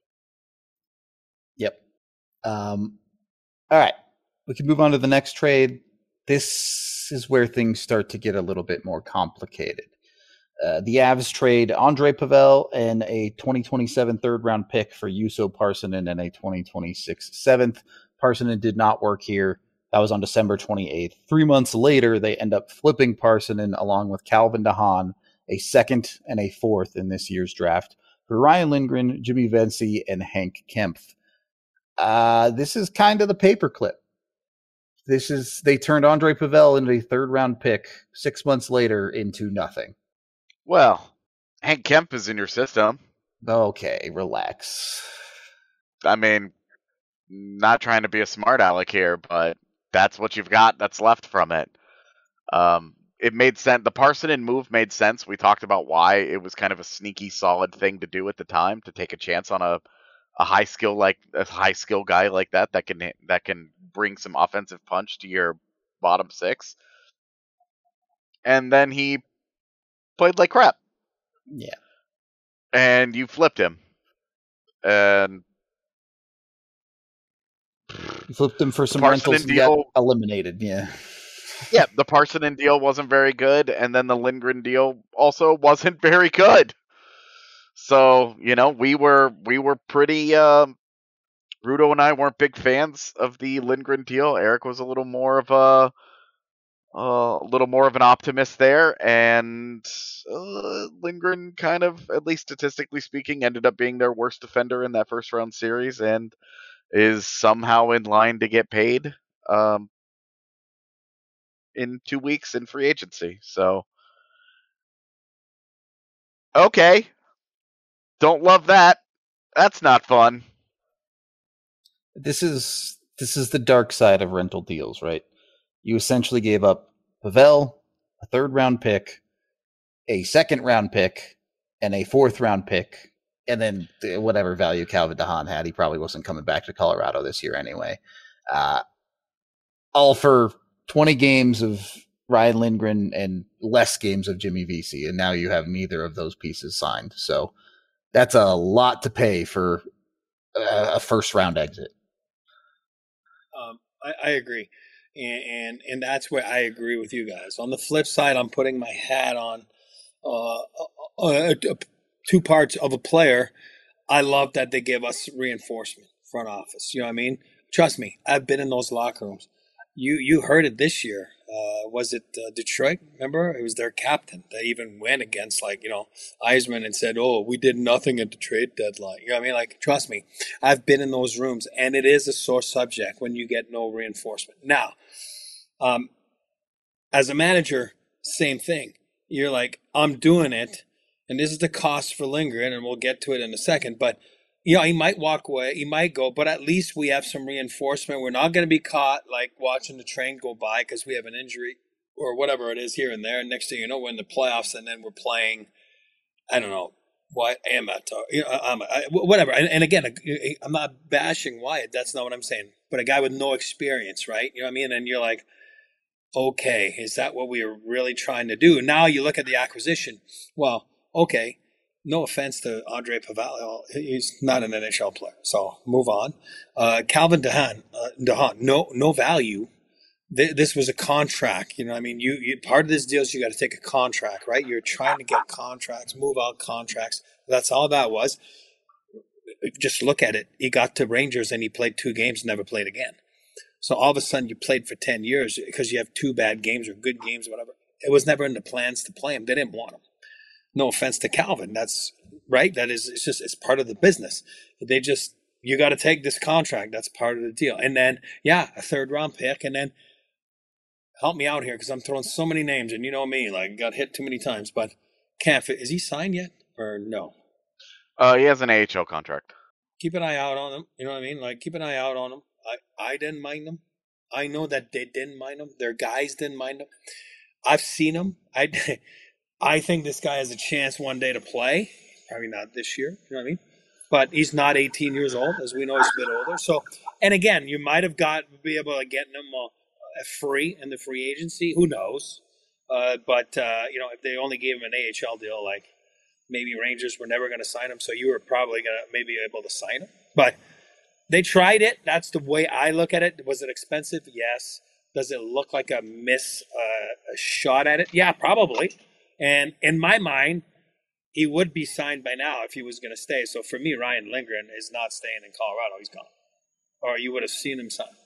Yep. Um, all right. We can move on to the next trade. This is where things start to get a little bit more complicated. Uh, the Avs trade Andre Pavel and a twenty twenty-seven third round pick for Juuso Parssinen and a twenty twenty-six seventh. Parssinen did not work here. That was on December twenty-eighth. Three months later, they end up flipping Parssinen along with Calvin DeHaan, a second and a fourth in this year's draft, for Ryan Lindgren, Jimmy Vesey, and Hank Kempf. Uh, this is kind of the paperclip. This is they turned Andre Pavel into a third round pick six months later into nothing. Well, Hank Kemp is in your system. Okay, relax. I mean, not trying to be a smart aleck here, but that's what you've got that's left from it. Um, it made sense. The Parssinen move made sense. We talked about why it was kind of a sneaky, solid thing to do at the time, to take a chance on a, a high skill like a high skill guy like that that can that can bring some offensive punch to your bottom six. And then he played like crap. Yeah. And you flipped him. And you flipped him for some Parssinen rentals and deal, got eliminated. Yeah. Yeah, the Parssinen deal wasn't very good, and then the Lindgren deal also wasn't very good. So, you know, we were we were pretty um Rudo and I weren't big fans of the Lindgren deal. Eric was a little more of a Uh, a little more of an optimist there, and uh, Lindgren kind of, at least statistically speaking, ended up being their worst defender in that first round series, and is somehow in line to get paid um, in two weeks in free agency. So, okay, don't love that. That's not fun. This is this is the dark side of rental deals, right? You essentially gave up Pavel, a third round pick, a second round pick, and a fourth round pick, and then whatever value Calvin DeHaan had. He probably wasn't coming back to Colorado this year anyway. Uh, all for twenty games of Ryan Lindgren and less games of Jimmy Vesey, and now you have neither of those pieces signed. So that's a lot to pay for a, a first round exit. Um, I, I agree. And, and and that's where I agree with you guys. On the flip side, I'm putting my hat on uh, uh, uh, two parts of a player. I love that they give us reinforcement, front office. You know what I mean? Trust me, I've been in those locker rooms. You you heard it this year. Uh, was it uh, Detroit? Remember, it was their captain that even went against, like, you know, Eisman and said, "Oh, we did nothing at the trade deadline." You know what I mean? Like, trust me, I've been in those rooms, and it is a sore subject when you get no reinforcement. Now, um, as a manager, same thing. You're like, I'm doing it, and this is the cost for Lindgren, and we'll get to it in a second. But you know, he might walk away, he might go, but at least we have some reinforcement. We're not going to be caught like watching the train go by because we have an injury or whatever it is here and there. And next thing you know, we're in the playoffs, and then we're playing, I don't know, Wyatt, Amet, or, you know, um, I, whatever. And, and again, I'm not bashing Wyatt. That's not what I'm saying. But a guy with no experience, right? You know what I mean? And you're like, okay, is that what we were really trying to do? Now you look at the acquisition. Well, okay. No offense to Andre Pavel, he's not an N H L player, so move on. Uh, Calvin DeHaan, uh, DeHaan, no, no value. Th- this was a contract, you know. I mean, you, you part of this deal is you got to take a contract, right? You're trying to get contracts, move out contracts. That's all that was. Just look at it. He got to Rangers and he played two games, never played again. So all of a sudden, you played for ten years because you have two bad games or good games, or whatever. It was never in the plans to play him. They didn't want him. No offense to Calvin. That's right. That is, it's just, it's part of the business. They just, you got to take this contract. That's part of the deal. And then, yeah, a third round pick. And then help me out here because I'm throwing so many names and you know me, like got hit too many times. But Kampf, is he signed yet or no? Uh, he has an A H L contract. Keep an eye out on him. You know what I mean? Like keep an eye out on him. I, I didn't mind him. I know that they didn't mind him. Their guys didn't mind him. I've seen him. I I think this guy has a chance one day to play. Probably not this year, you know what I mean? But he's not eighteen years old. As we know, he's a bit older. So, and again, you might have got be able to get him uh, free in the free agency. Who knows? Uh, but, uh, you know, if they only gave him an A H L deal, like maybe Rangers were never going to sign him. So you were probably going to maybe able to sign him. But they tried it. That's the way I look at it. Was it expensive? Yes. Does it look like a miss uh, a shot at it? Yeah, probably. And in my mind, he would be signed by now if he was going to stay. So for me, Ryan Lindgren is not staying in Colorado. He's gone. Or you would have seen him sign.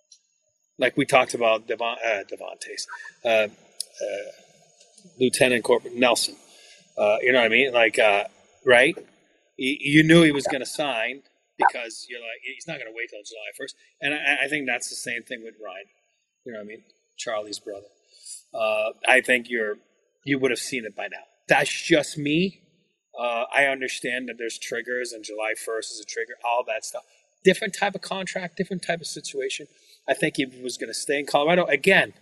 Like we talked about Devon, uh, Devontae's, uh, uh, Lieutenant Corporal Nelson. Uh, you know what I mean? Like, uh, right? You, you knew he was going to sign because you're like, he's not going to wait till July first. And I, I think that's the same thing with Ryan. You know what I mean? Charlie's brother. Uh, I think you're you would have seen it by now. That's just me. Uh, I understand that there's triggers and July first is a trigger, all that stuff. Different type of contract, different type of situation. I think he was going to stay in Colorado. Again,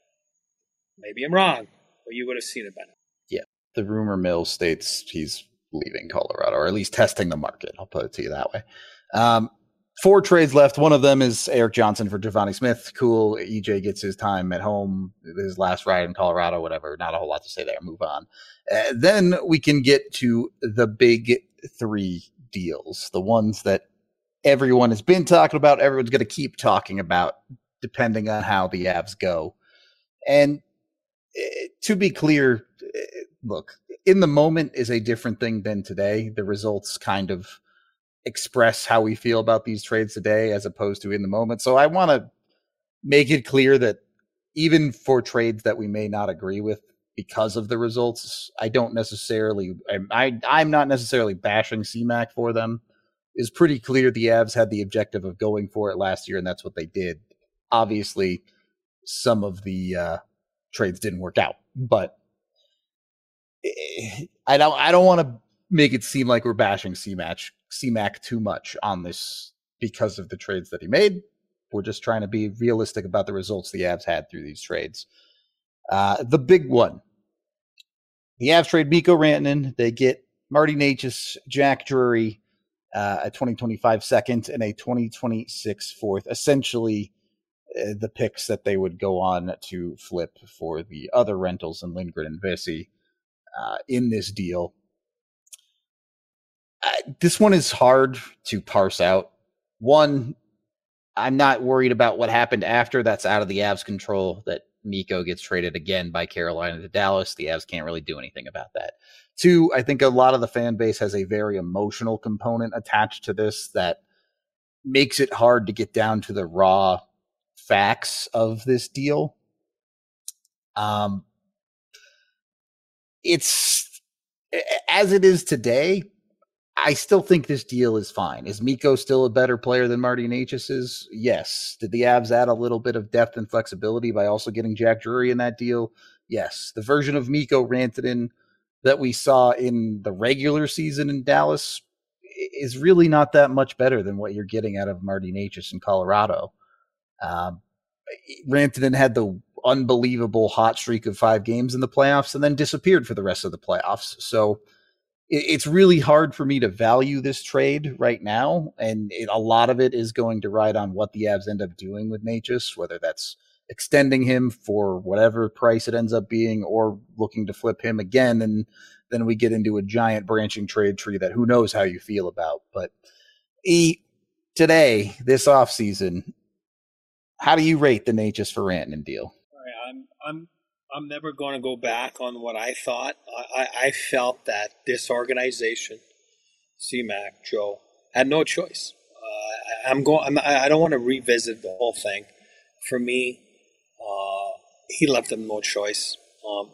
maybe I'm wrong, but you would have seen it by now. Yeah, the rumor mill states he's leaving Colorado, or at least testing the market. I'll put it to you that way. Um, Four trades left. One of them is Eric Johnson for Giovanni Smith. Cool. E J gets his time at home, his last ride in Colorado, whatever. Not a whole lot to say there. Move on. Uh, then we can get to the big three deals, the ones that everyone has been talking about, everyone's going to keep talking about, depending on how the Avs go. And uh, to be clear, uh, look, in the moment is a different thing than today. The results kind of express how we feel about these trades today as opposed to in the moment. So I want to make it clear that even for trades that we may not agree with because of the results, I don't necessarily, I, I, I'm not necessarily bashing C MAC for them. It's pretty clear the Avs had the objective of going for it last year, and that's what they did. Obviously, some of the uh, trades didn't work out, but I don't, I don't want to make it seem like we're bashing C MAC, C MAC too much on this because of the trades that he made. We're just trying to be realistic about the results the Avs had through these trades. Uh, the big one, the Avs trade Mikko Rantanen. They get Marty Necas, Jack Drury, uh, a twenty twenty-five second and a twenty twenty-six fourth. Essentially, uh, the picks that they would go on to flip for the other rentals in Lindgren and Vesey uh, in this deal. Uh, this one is hard to parse out. One, I'm not worried about what happened after. That's out of the Avs' control. That Mikko gets traded again by Carolina to Dallas. The Avs can't really do anything about that. Two, I think a lot of the fan base has a very emotional component attached to this that makes it hard to get down to the raw facts of this deal. Um, it's as it is today. I still think this deal is fine. Is Mikko still a better player than Marty Necas is? Yes. Did the Avs add a little bit of depth and flexibility by also getting Jack Drury in that deal? Yes. The version of Mikko Rantanen that we saw in the regular season in Dallas is really not that much better than what you're getting out of Marty Necas in Colorado. Um, Rantanen had the unbelievable hot streak of five games in the playoffs and then disappeared for the rest of the playoffs. So it's really hard for me to value this trade right now, and it, a lot of it is going to ride on what the Avs end up doing with Necas, whether that's extending him for whatever price it ends up being or looking to flip him again, and then we get into a giant branching trade tree that who knows how you feel about. But e, today, this offseason, how do you rate the Necas for Rantanen deal? I'm I'm I'm never going to go back on what I thought. I, I felt that this organization, C MAC, Joe, had no choice. Uh, I'm going. I'm, I don't want to revisit the whole thing. For me, uh, he left them no choice. Um,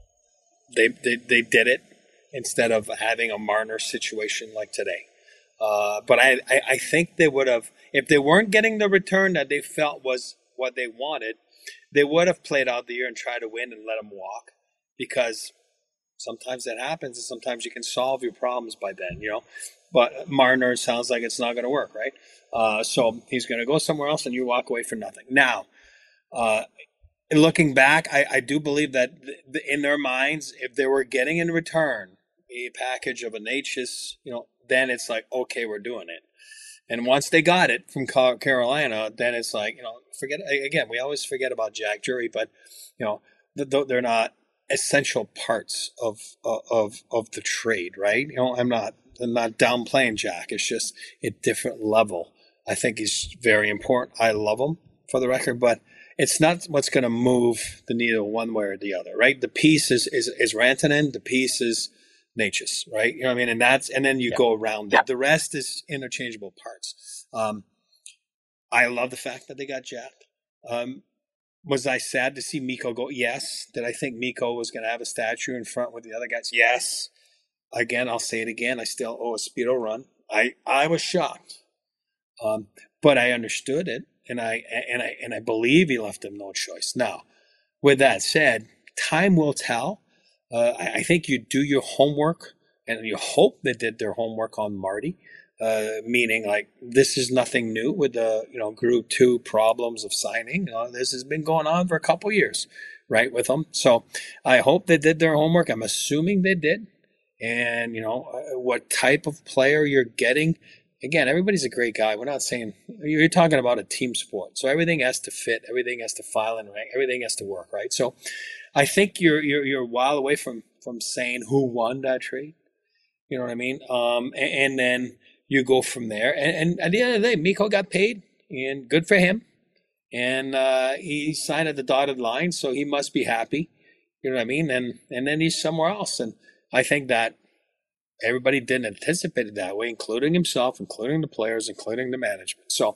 they, they they did it instead of having a Marner situation like today. Uh, but I, I I think they would have, if they weren't getting the return that they felt was what they wanted, they would have played out the year and tried to win and let them walk, because sometimes that happens and sometimes you can solve your problems by then, you know. But Marner sounds like it's not going to work, right? Uh, so he's going to go somewhere else and you walk away for nothing. Now, uh, looking back, I, I do believe that th- in their minds, if they were getting in return a package of a Necas, you know, then it's like, okay, we're doing it. And once they got it from Carolina, then it's like, you know, forget again. We always forget about Jack Drury, but you know, they're not essential parts of of of the trade, right? You know, I'm not I'm not downplaying Jack. It's just a different level. I think he's very important. I love him, for the record, but it's not what's going to move the needle one way or the other, right? The piece is is, is Rantanen. The piece is Necas, right? You know what I mean? And that's, and then you yeah. go around it. Yeah. The rest is interchangeable parts. Um, I love the fact that they got Jack. Um, was I sad to see Mikko go? Yes. Did I think Mikko was going to have a statue in front with the other guys? Yes. Again, I'll say it again. I still owe a Speedo run. I, I was shocked. Um, but I understood it, and I and I and I believe he left him no choice. Now, with that said, time will tell. Uh, I, I think you do your homework, and you hope they did their homework on Marty, uh, meaning like this is nothing new with the you know Group Two problems of signing. Uh, this has been going on for a couple years, right, with them. So I hope they did their homework. I'm assuming they did, and you know uh, what type of player you're getting. Again, everybody's a great guy. We're not saying you're talking about a team sport, so everything has to fit, everything has to file and rank, everything has to work, right? So. I think you're you're you're a while away from, from saying who won that trade. You know what I mean? Um, and, and then you go from there. And, and at the end of the day, Mikko got paid, and good for him. And uh, he signed at the dotted line, so he must be happy. You know what I mean? And and then he's somewhere else. And I think that everybody didn't anticipate it that way, including himself, including the players, including the management. So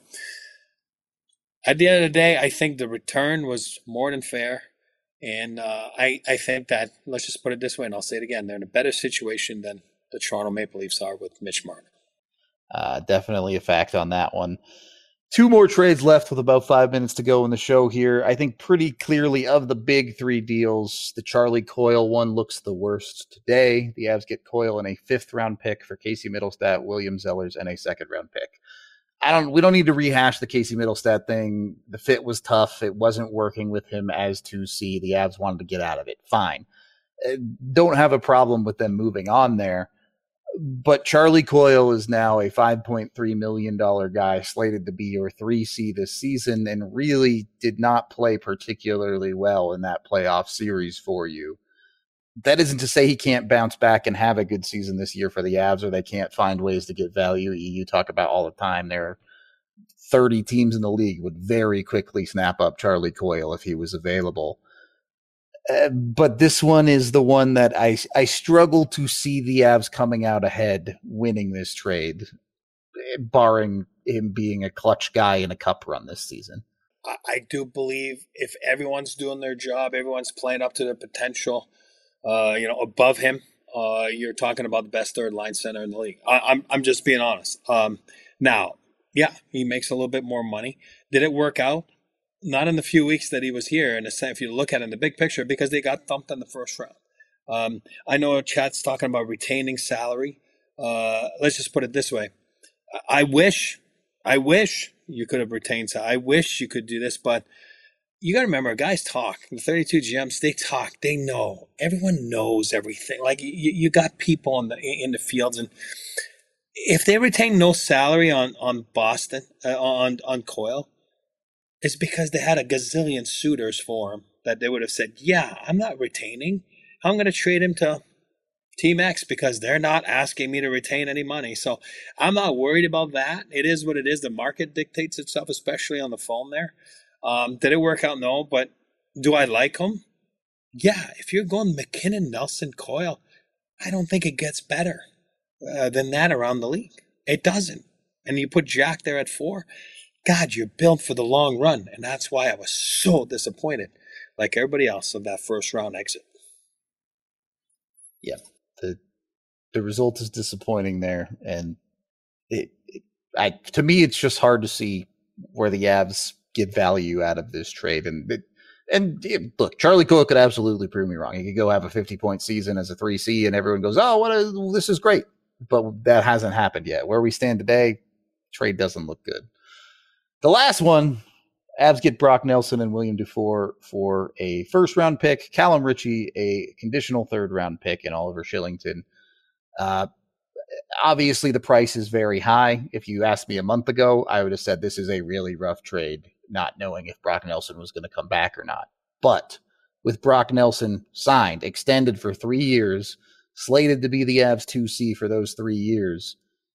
at the end of the day, I think the return was more than fair. And uh, I, I think that, let's just put it this way, and I'll say it again, they're in a better situation than the Toronto Maple Leafs are with Mitch Marner. Uh, definitely a fact on that one. Two more trades left with about five minutes to go in the show here. I think pretty clearly of the big three deals, the Charlie Coyle one looks the worst today. The Avs get Coyle and a fifth round pick for Casey Middlestat, William Zellers, and a second round pick. I don't. We don't need to rehash the Casey Middlestat thing. The fit was tough. It wasn't working with him as two C. The Avs wanted to get out of it. Fine. Don't have a problem with them moving on there. But Charlie Coyle is now a five point three million dollars guy slated to be your three C this season and really did not play particularly well in that playoff series for you. That isn't to say he can't bounce back and have a good season this year for the Avs, or they can't find ways to get value. You talk about all the time. There are thirty teams in the league would very quickly snap up Charlie Coyle if he was available. Uh, but this one is the one that I I struggle to see the Avs coming out ahead, winning this trade, barring him being a clutch guy in a cup run this season. I do believe if everyone's doing their job, everyone's playing up to their potential, uh, you know, above him, uh, you're talking about the best third line center in the league. I, I'm I'm just being honest. Um, now, yeah, he makes a little bit more money. Did it work out? Not in the few weeks that he was here. And if you look at it in the big picture, because they got thumped in the first round. Um, I know Chat's talking about retaining salary. Uh, let's just put it this way. I wish, I wish you could have retained salary. I wish you could do this, but you got to remember, guys talk. The thirty-two G Ms, they talk. They know. Everyone knows everything. Like you, you got people in the in the fields, and if they retain no salary on on Boston uh, on on Coyle, it's because they had a gazillion suitors for him that they would have said, "Yeah, I'm not retaining. I'm going to trade him to Team X because they're not asking me to retain any money." So I'm not worried about that. It is what it is. The market dictates itself, especially on the phone there. Um, did it work out? No. But do I like him? Yeah. If you're going McKinnon, Nelson, Coyle, I don't think it gets better uh, than that around the league. It doesn't. And you put Jack there at four. God, you're built for the long run. And that's why I was so disappointed, like everybody else, of that first round exit. Yeah. The the result is disappointing there. And it, it I to me, it's just hard to see where the Avs get value out of this trade. And it, and it, look, Charlie Coyle could absolutely prove me wrong. He could go have a fifty-point season as a three C, and everyone goes, oh, what a, this is great. But that hasn't happened yet. Where we stand today, trade doesn't look good. The last one, Avs get Brock Nelson and William Dufour for a first-round pick, Callum Ritchie, a conditional third-round pick, and Oliver Shillington. Uh, obviously, the price is very high. If you asked me a month ago, I would have said this is a really rough trade, not knowing if Brock Nelson was going to come back or not. But with Brock Nelson signed, extended for three years, slated to be the Avs two C for those three years,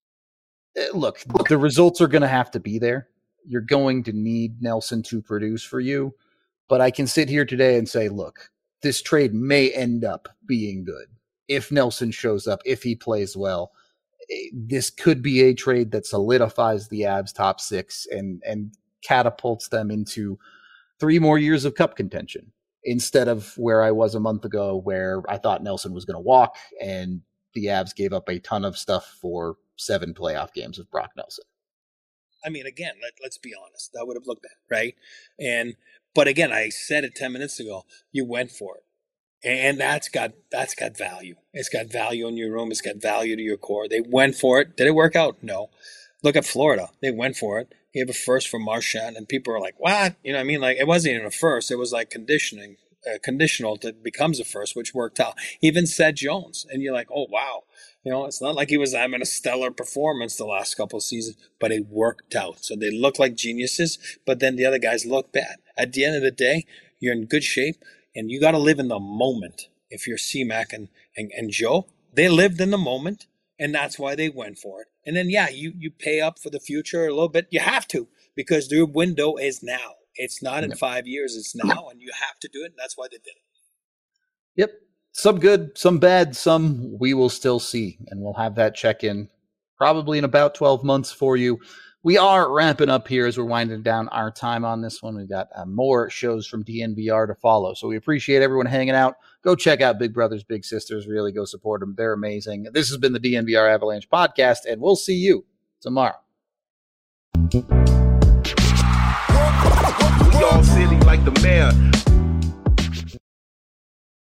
look, the results are going to have to be there. You're going to need Nelson to produce for you. But I can sit here today and say, look, this trade may end up being good. If Nelson shows up, if he plays well, this could be a trade that solidifies the Avs top six and, and catapults them into three more years of cup contention instead of where I was a month ago, where I thought Nelson was going to walk and the Avs gave up a ton of stuff for seven playoff games of Brock Nelson. I mean, again, let, let's be honest. That would have looked bad, right? And but again, I said it ten minutes ago. You went for it, and that's got that's got value. It's got value in your room. It's got value to your core. They went for it. Did it work out? No. Look at Florida. They went for it. Gave a first for Marchand, and people were like, "What?" You know what I mean? Like it wasn't even a first. It was like conditioning, uh, conditional that becomes a first, which worked out. Even Seth Jones, and you're like, "Oh wow." You know, it's not like he was having a stellar performance the last couple of seasons, but it worked out. So they look like geniuses, but then the other guys look bad. At the end of the day, you're in good shape, and you got to live in the moment. If you're C-Mac and, and, and Joe, they lived in the moment, and that's why they went for it. And then, yeah, you, you pay up for the future a little bit. You have to, because their window is now. It's not in yep. five years. It's now, and you have to do it, and that's why they did it. Yep. Some good, some bad, some we will still see. And we'll have that check-in probably in about twelve months for you. We are ramping up here as we're winding down our time on this one. We've got uh, more shows from D N V R to follow. So we appreciate everyone hanging out. Go check out Big Brothers, Big Sisters. Really go support them. They're amazing. This has been the D N V R Avalanche podcast, and we'll see you tomorrow. We all silly like the mayor.